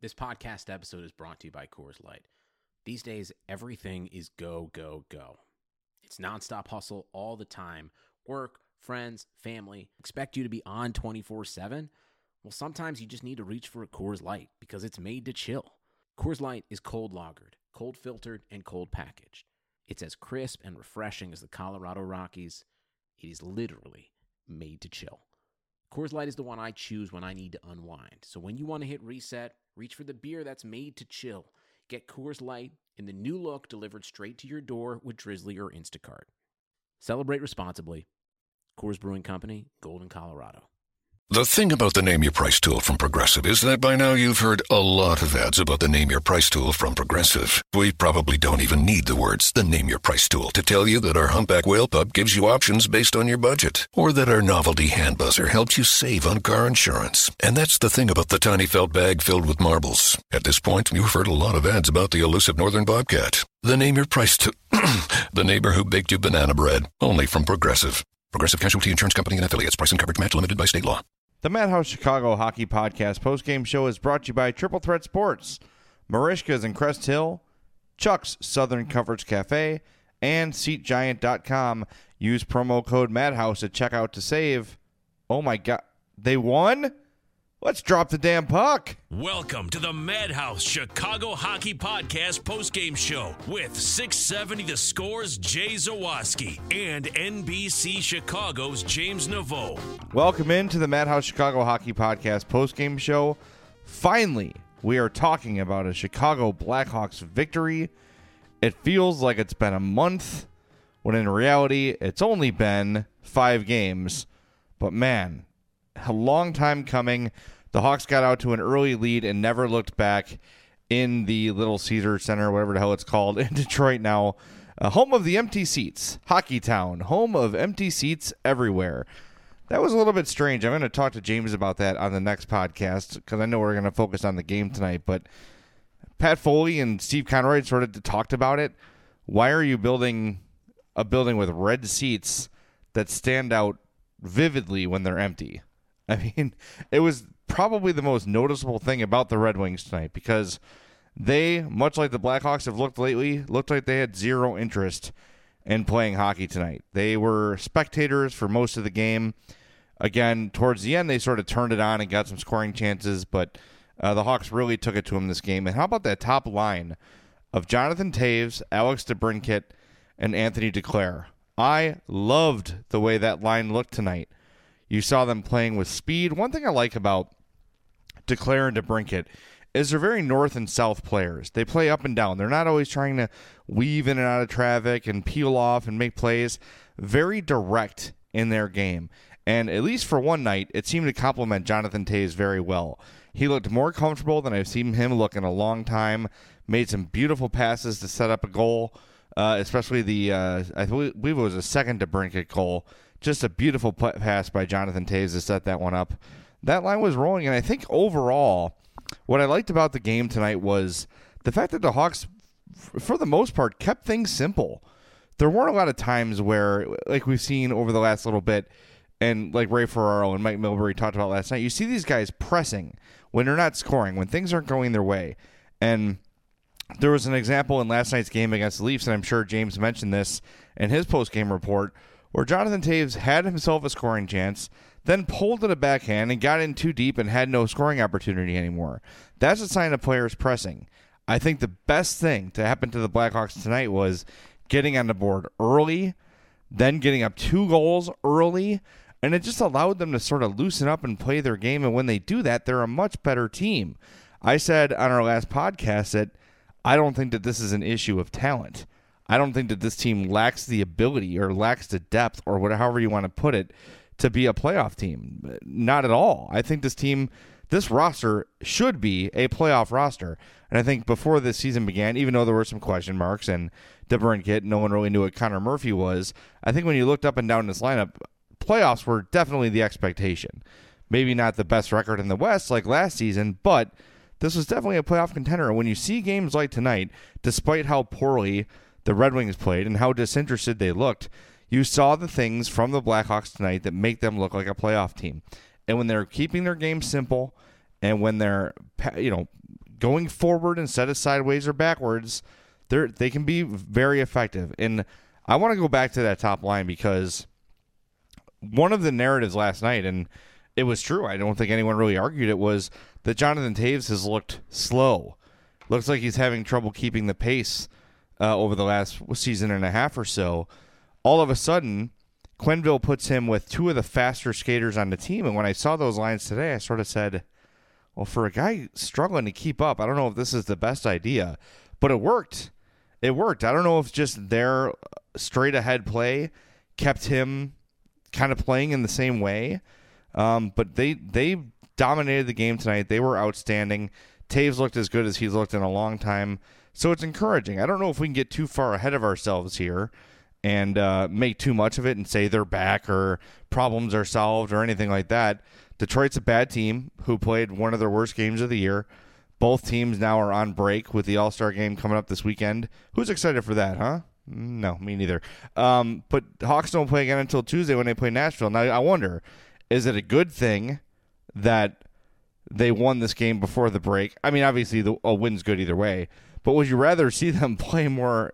This podcast episode is brought to you by Coors Light. These days, everything is go, go, go. It's nonstop hustle all the time. Work, friends, family, expect you to be on 24/7. Well, sometimes you just need to reach for a Coors Light because it's made to chill. Coors Light is cold lagered, cold filtered, and cold packaged. It's as crisp and refreshing as the Colorado Rockies. It is literally made to chill. Coors Light is the one I choose when I need to unwind. So when you want to hit reset, reach for the beer that's made to chill. Get Coors Light in the new look delivered straight to your door with Drizzly or Instacart. Celebrate responsibly. Coors Brewing Company, Golden, Colorado. The thing about the Name Your Price tool from Progressive is that by now you've heard a lot of ads about the Name Your Price tool from Progressive. We probably don't even need the words, the Name Your Price tool, to tell you that our Humpback Whale Pup gives you options based on your budget, or that our novelty hand buzzer helps you save on car insurance. And that's the thing about the tiny felt bag filled with marbles. At this point, you've heard a lot of ads about the elusive northern bobcat. The Name Your Price tool, the neighbor who baked you banana bread, only from Progressive. Progressive Casualty Insurance Company and Affiliates. Price and coverage match limited by state law. The Madhouse Chicago Hockey Podcast postgame show is brought to you by Triple Threat Sports, Marishka's in Crest Hill, Chuck's Southern Comforts Cafe, and SeatGiant.com. Use promo code Madhouse at checkout to save. Oh my God, they won? Let's drop the damn puck. Welcome to the Madhouse Chicago Hockey Podcast postgame show with 670 The Score's Jay Zawaski and NBC Chicago's James Naveau. Welcome into the Madhouse Chicago Hockey Podcast postgame show. Finally, we are talking about a Chicago Blackhawks victory. It feels like it's been a month, when in reality, it's only been 5 games. But man, a long time coming. The Hawks got out to an early lead and never looked back in the Little Caesar Center, whatever the hell it's called, in Detroit now. Home of the empty seats. Hockey Town. Home of empty seats everywhere. That was a little bit strange. I'm going to talk to James about that on the next podcast because I know we're going to focus on the game tonight. But Pat Foley and Steve Conroy sort of talked about it. Why are you building a building with red seats that stand out vividly when they're empty? I mean, it was probably the most noticeable thing about the Red Wings tonight because they, much like the Blackhawks have looked lately, looked like they had zero interest in playing hockey tonight. They were spectators for most of the game. Again, towards the end, they sort of turned it on and got some scoring chances, but the Hawks really took it to them this game. And how about that top line of Jonathan Toews, Alex DeBrincat, and Anthony Duclair? I loved the way that line looked tonight. You saw them playing with speed. One thing I like about Duclair and DeBrincat is they're very north and south players. They play up and down. They're not always trying to weave in and out of traffic and peel off and make plays. Very direct in their game. And at least for one night, it seemed to complement Jonathan Toews very well. He looked more comfortable than I've seen him look in a long time. Made some beautiful passes to set up a goal, especially the, I believe it was a second DeBrincat goal. Just a beautiful pass by Jonathan Toews to set that one up. That line was rolling, and I think overall, what I liked about the game tonight was the fact that the Hawks, for the most part, kept things simple. There weren't a lot of times where, like we've seen over the last little bit, and like Ray Ferraro and Mike Milbury talked about last night, you see these guys pressing when they're not scoring, when things aren't going their way. And there was an example in last night's game against the Leafs, and I'm sure James mentioned this in his post-game report, where Jonathan Toews had himself a scoring chance, then pulled it a backhand and got in too deep and had no scoring opportunity anymore. That's a sign of players pressing. I think the best thing to happen to the Blackhawks tonight was getting on the board early, then getting up 2 goals early, and it just allowed them to sort of loosen up and play their game, and when they do that, they're a much better team. I said on our last podcast that I don't think that this is an issue of talent. I don't think that this team lacks the ability or lacks the depth or however you want to put it to be a playoff team. Not at all. I think this roster should be a playoff roster. And I think before this season began, even though there were some question marks and DeBrincat, no one really knew what Connor Murphy was, I think when you looked up and down this lineup, playoffs were definitely the expectation. Maybe not the best record in the West like last season, but this was definitely a playoff contender. And when you see games like tonight, despite how poorly the Red Wings played and how disinterested they looked, you saw the things from the Blackhawks tonight that make them look like a playoff team. And when they're keeping their game simple and when they're, going forward instead of sideways or backwards, they can be very effective. And I want to go back to that top line because one of the narratives last night, and it was true, I don't think anyone really argued it, was that Jonathan Toews has looked slow. Looks like he's having trouble keeping the pace over the last season and a half or so. All of a sudden, Quenneville puts him with two of the faster skaters on the team. And when I saw those lines today, I sort of said, well, for a guy struggling to keep up, I don't know if this is the best idea. But it worked. It worked. I don't know if just their straight-ahead play kept him kind of playing in the same way. But they dominated the game tonight. They were outstanding. Toews looked as good as he's looked in a long time. So it's encouraging. I don't know if we can get too far ahead of ourselves here and make too much of it and say they're back or problems are solved or anything like that. Detroit's a bad team who played one of their worst games of the year. Both teams now are on break with the All-Star game coming up this weekend. Who's excited for that, huh? No, me neither. But Hawks don't play again until Tuesday when they play Nashville. Now, I wonder, is it a good thing that they won this game before the break? I mean, obviously, a win's good either way. But would you rather see them play more,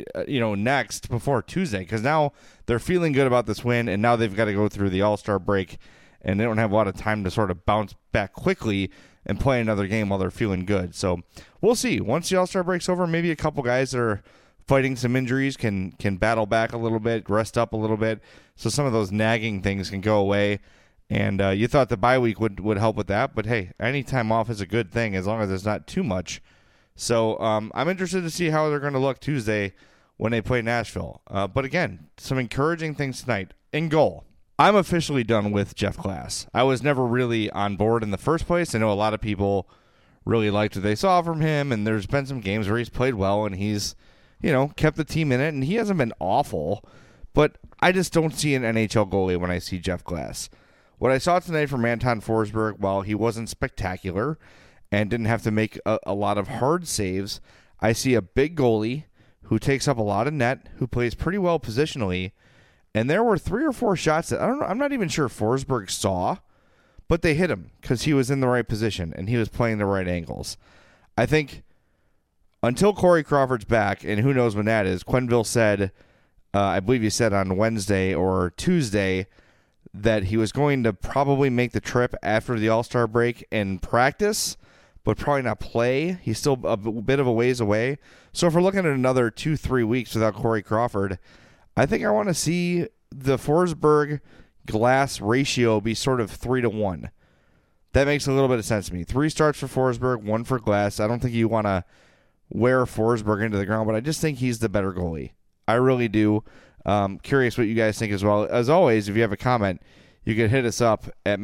next before Tuesday? Because now they're feeling good about this win, and now they've got to go through the All-Star break, and they don't have a lot of time to sort of bounce back quickly and play another game while they're feeling good. So we'll see. Once the All-Star break's over, maybe a couple guys that are fighting some injuries can battle back a little bit, rest up a little bit, so some of those nagging things can go away. And you thought the bye week would help with that, but hey, any time off is a good thing as long as it's not too much. So I'm interested to see how they're going to look Tuesday when they play Nashville. But again, some encouraging things tonight. In goal, I'm officially done with Jeff Glass. I was never really on board in the first place. I know a lot of people really liked what they saw from him, and there's been some games where he's played well and he's, kept the team in it, and he hasn't been awful. But I just don't see an NHL goalie when I see Jeff Glass. What I saw tonight from Anton Forsberg, while he wasn't spectacular and didn't have to make a lot of hard saves, I see a big goalie who takes up a lot of net, who plays pretty well positionally, and there were 3 or 4 shots that I'm not even sure Forsberg saw, but they hit him because he was in the right position and he was playing the right angles. I think until Corey Crawford's back, and who knows when that is, Quenneville said, I believe he said on Wednesday or Tuesday, that he was going to probably make the trip after the All-Star break and practice, but probably not play. He's still a bit of a ways away. So if we're looking at another 2-3 weeks without Corey Crawford, I think I want to see the Forsberg-Glass ratio be sort of 3-1. That makes a little bit of sense to me. 3 starts for Forsberg, 1 for Glass. I don't think you want to wear Forsberg into the ground, but I just think he's the better goalie. I really do. Curious what you guys think as well. As always, if you have a comment, you can hit us up at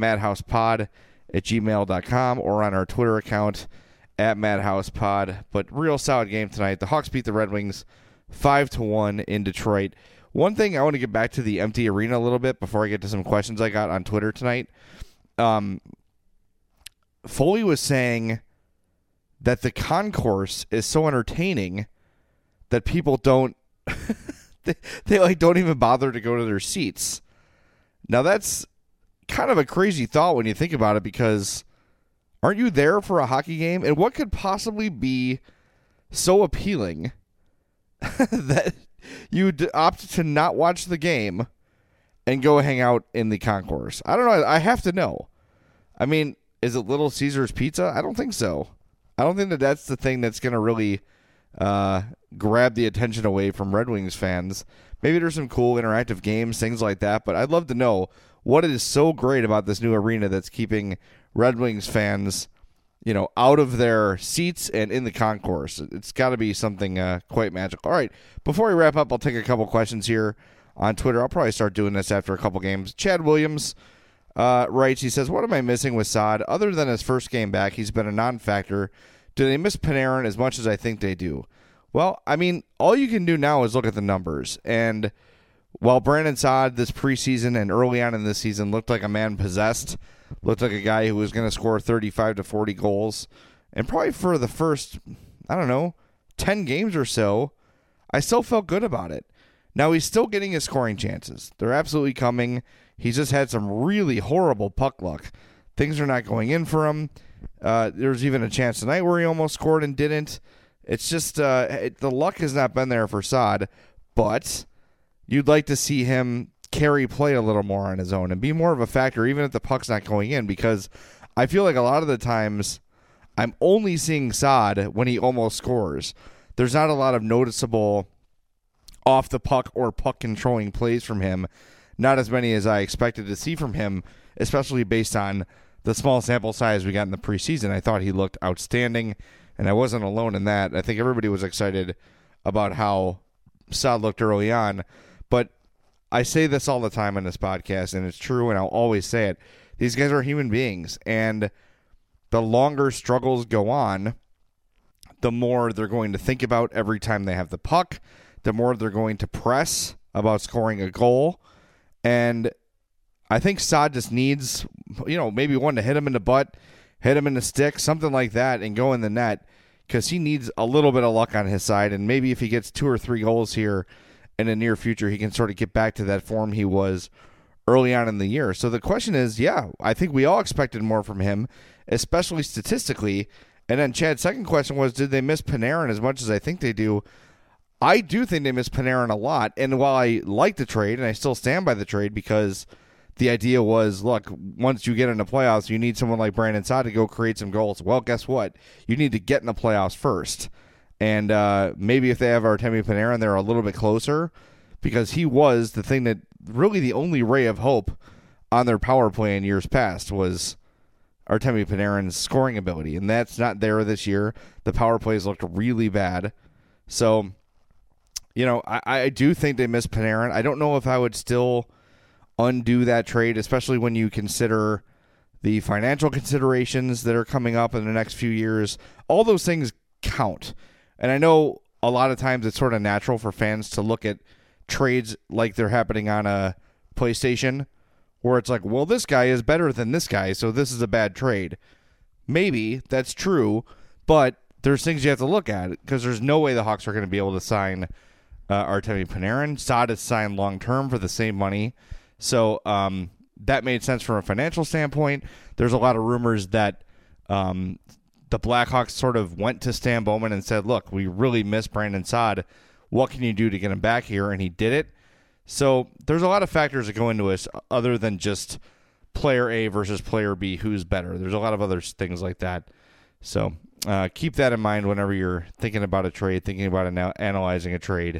madhousepod@gmail.com or on our Twitter account at madhousepod. But real solid game tonight. The Hawks beat the Red Wings 5-1 in Detroit. One thing I want to get back to the empty arena a little bit before I get to some questions I got on Twitter tonight. Foley was saying that the concourse is so entertaining that people don't they don't even bother to go to their seats. Now that's kind of a crazy thought when you think about it, because aren't you there for a hockey game? And what could possibly be so appealing that you'd opt to not watch the game and go hang out in the concourse? I don't know. I have to know. I mean, is it Little Caesars Pizza? I don't think so. I don't think that that's the thing that's going to really grab the attention away from Red Wings fans. Maybe there's some cool interactive games, things like that, but I'd love to know what is so great about this new arena that's keeping Red Wings fans, out of their seats and in the concourse. It's got to be something quite magical. All right, before we wrap up, I'll take a couple questions here on Twitter. I'll probably start doing this after a couple games. Chad Williams writes, he says, what am I missing with Saad? Other than his first game back, he's been a non-factor. Do they miss Panarin as much as I think they do? Well, I mean, all you can do now is look at the numbers. And while Brandon Saad this preseason and early on in this season looked like a man possessed, looked like a guy who was going to score 35 to 40 goals, and probably for the first, 10 games or so, I still felt good about it. Now, he's still getting his scoring chances. They're absolutely coming. He's just had some really horrible puck luck. Things are not going in for him. There was even a chance tonight where he almost scored and didn't. It's just the luck has not been there for Saad, but you'd like to see him carry play a little more on his own and be more of a factor, even if the puck's not going in, because I feel like a lot of the times I'm only seeing Saad when he almost scores. There's not a lot of noticeable off the puck or puck controlling plays from him. Not as many as I expected to see from him, especially based on the small sample size we got in the preseason. I thought he looked outstanding, and I wasn't alone in that. I think everybody was excited about how Saad looked early on, but I say this all the time on this podcast, and it's true, and I'll always say it. These guys are human beings, and the longer struggles go on, the more they're going to think about every time they have the puck, the more they're going to press about scoring a goal, and I think Saad just needs, maybe one to hit him in the butt, hit him in the stick, something like that, and go in the net, because he needs a little bit of luck on his side, and maybe if he gets 2 or 3 goals here in the near future, he can sort of get back to that form he was early on in the year. So the question is, I think we all expected more from him, especially statistically. And then Chad's second question was, did they miss Panarin as much as I think they do? I do think they miss Panarin a lot. And while I like the trade, and I still stand by the trade, because the idea was, look, once you get in the playoffs, you need someone like Brandon Saad to go create some goals. Well, guess what? You need to get in the playoffs first. And maybe if they have Artemi Panarin, they're a little bit closer, because he was the thing that really the only ray of hope on their power play in years past was Artemi Panarin's scoring ability. And that's not there this year. The power plays looked really bad. So, I do think they miss Panarin. I don't know if I would still undo that trade, especially when you consider the financial considerations that are coming up in the next few years. All those things count. And I know a lot of times it's sort of natural for fans to look at trades like they're happening on a PlayStation, where it's like, well, this guy is better than this guy, so this is a bad trade. Maybe that's true, but there's things you have to look at, because there's no way the Hawks are going to be able to sign Artemi Panarin. Saad is signed long-term for the same money, so that made sense from a financial standpoint. There's a lot of rumors that the Blackhawks sort of went to Stan Bowman and said, look, we really miss Brandon Saad. What can you do to get him back here? And he did it. So there's a lot of factors that go into this other than just player A versus player B, who's better. There's a lot of other things like that. So keep that in mind whenever you're thinking about a trade, thinking about analyzing a trade.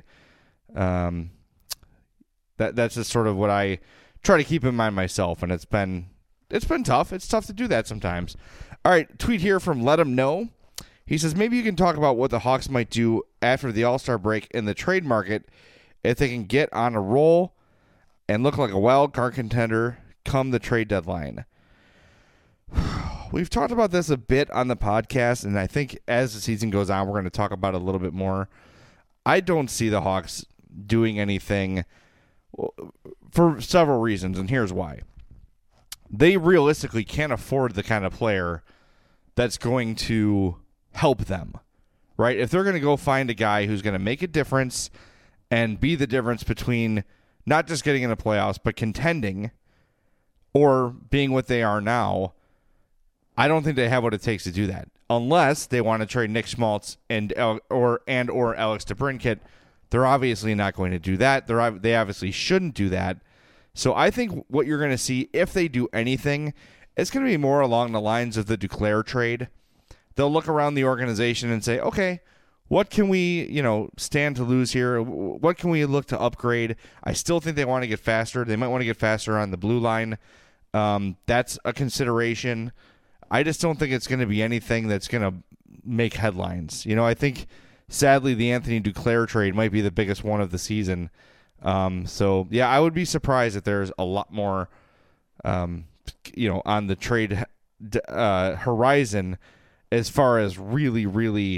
That's just sort of what I try to keep in mind myself, and it's been tough. It's tough to do that sometimes. All right, tweet here from Let Him Know. He says, maybe you can talk about what the Hawks might do after the All-Star break in the trade market if they can get on a roll and look like a wild card contender come the trade deadline. We've talked about this a bit on the podcast, and I think as the season goes on, we're going to talk about it a little bit more. I don't see the Hawks doing anything for several reasons, and here's why. They realistically can't afford the kind of player that's going to help them, right? If they're going to go find a guy who's going to make a difference and be the difference between not just getting in the playoffs, but contending or being what they are now, I don't think they have what it takes to do that. Unless they want to trade Nick Schmaltz and or Alex DeBrincat, they're obviously not going to do that. They obviously shouldn't do that. So I think what you're going to see, if they do anything, it's going to be more along the lines of the Duclair trade. They'll look around the organization and say, okay, what can we, stand to lose here? What can we look to upgrade? I still think they want to get faster. They might want to get faster on the blue line. That's a consideration. I just don't think it's going to be anything that's going to make headlines. I think, sadly, the Anthony Duclair trade might be the biggest one of the season. So, yeah, I would be surprised if there's a lot more, on the trade horizon as far as really, really,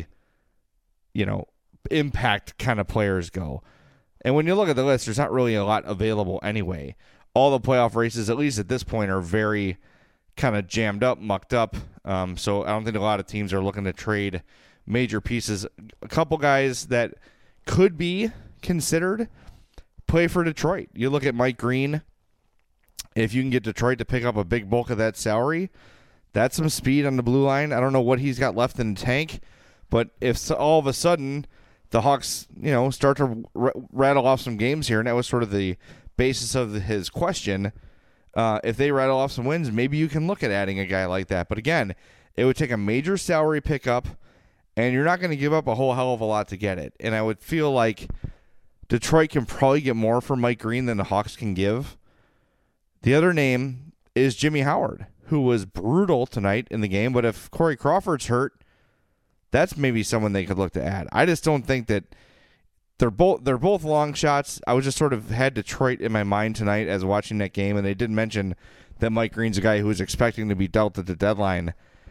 impact kind of players go. And when you look at the list, there's not really a lot available anyway. All the playoff races, at least at this point, are very kind of jammed up, mucked up. So I don't think a lot of teams are looking to trade major pieces. A couple guys that could be considered play for Detroit. You look at Mike Green. If you can get Detroit to pick up a big bulk of that salary, That's some speed on the blue line. I don't know what he's got left in the tank, but if all of a sudden the Hawks, start to rattle off some games here, and that was sort of the basis of his question, if they rattle off some wins, maybe you can look at adding a guy like that. But again, it would take a major salary pickup, and you're not going to give up a whole hell of a lot to get it. And I would feel like Detroit can probably get more for Mike Green than the Hawks can give. The other name is Jimmy Howard, who was brutal tonight in the game. But if Corey Crawford's hurt, that's maybe someone they could look to add. I just don't think that they're both long shots. I was just sort of had Detroit in my mind tonight as watching that game, and they did mention that Mike Green's a guy who was expecting to be dealt at the deadline.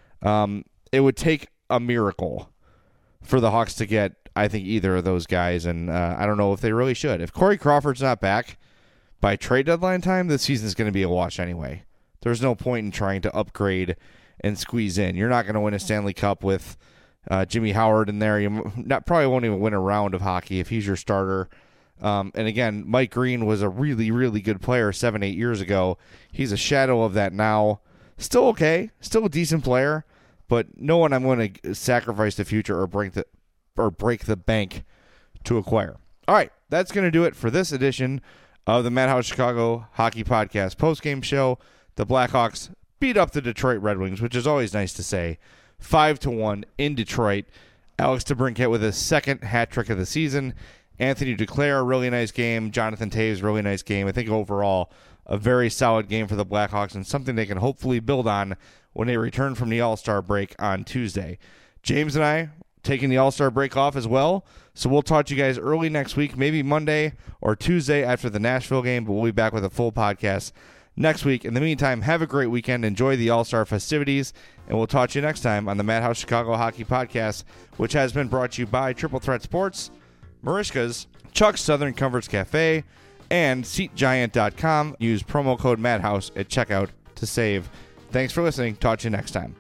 It would take a miracle for the Hawks to get, I think, either of those guys, and I don't know if they really should. If Corey Crawford's not back by trade deadline time, the season's going to be a wash anyway. There's no point in trying to upgrade and squeeze in. You're not going to win a Stanley Cup with Jimmy Howard in there. You probably won't even win a round of hockey if he's your starter. And again, Mike Green was a really, really good player 7-8 years ago. He's a shadow of that now. Still okay, still a decent player, but no one I'm going to sacrifice the future or break the bank to acquire. All right, that's going to do it for this edition of the Madhouse Chicago Hockey Podcast postgame show. The Blackhawks beat up the Detroit Red Wings, which is always nice to say, 5-1 in Detroit. Alex DeBrincat with his second hat trick of the season. Anthony Duclair, really nice game. Jonathan Toews, really nice game. I think overall a very solid game for the Blackhawks and something they can hopefully build on when they return from the All-Star break on Tuesday. James and I taking the All-Star break off as well, so we'll talk to you guys early next week, maybe Monday or Tuesday after the Nashville game, but we'll be back with a full podcast next week. In the meantime, have a great weekend. Enjoy the All-Star festivities, and we'll talk to you next time on the Madhouse Chicago Hockey Podcast, which has been brought to you by Triple Threat Sports, Marishka's, Chuck's Southern Comforts Cafe, and SeatGiant.com. Use promo code Madhouse at checkout to save. Thanks for listening. Talk to you next time.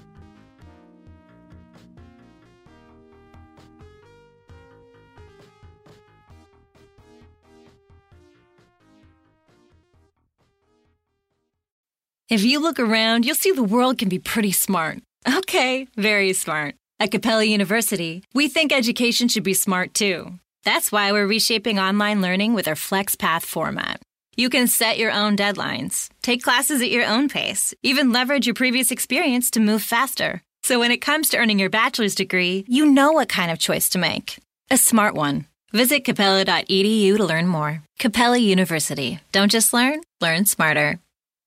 If you look around, you'll see the world can be pretty smart. Okay, very smart. At Capella University, we think education should be smart too. That's why we're reshaping online learning with our FlexPath format. You can set your own deadlines, take classes at your own pace, even leverage your previous experience to move faster. So when it comes to earning your bachelor's degree, you know what kind of choice to make. A smart one. Visit capella.edu to learn more. Capella University. Don't just learn, learn smarter.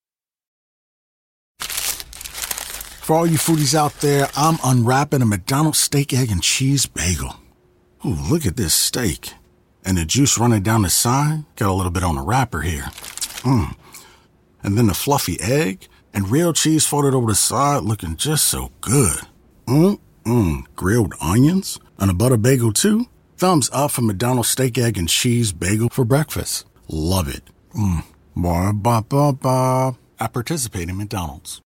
For all you foodies out there, I'm unwrapping a McDonald's steak, egg, and cheese bagel. Ooh, look at this steak. And the juice running down the side, got a little bit on the wrapper here. And then the fluffy egg and real cheese folded over the side, looking just so good. Grilled onions and a butter bagel too. Thumbs up for McDonald's steak, egg, and cheese bagel for breakfast. Love it. Ba-ba-ba-ba. I participate in McDonald's.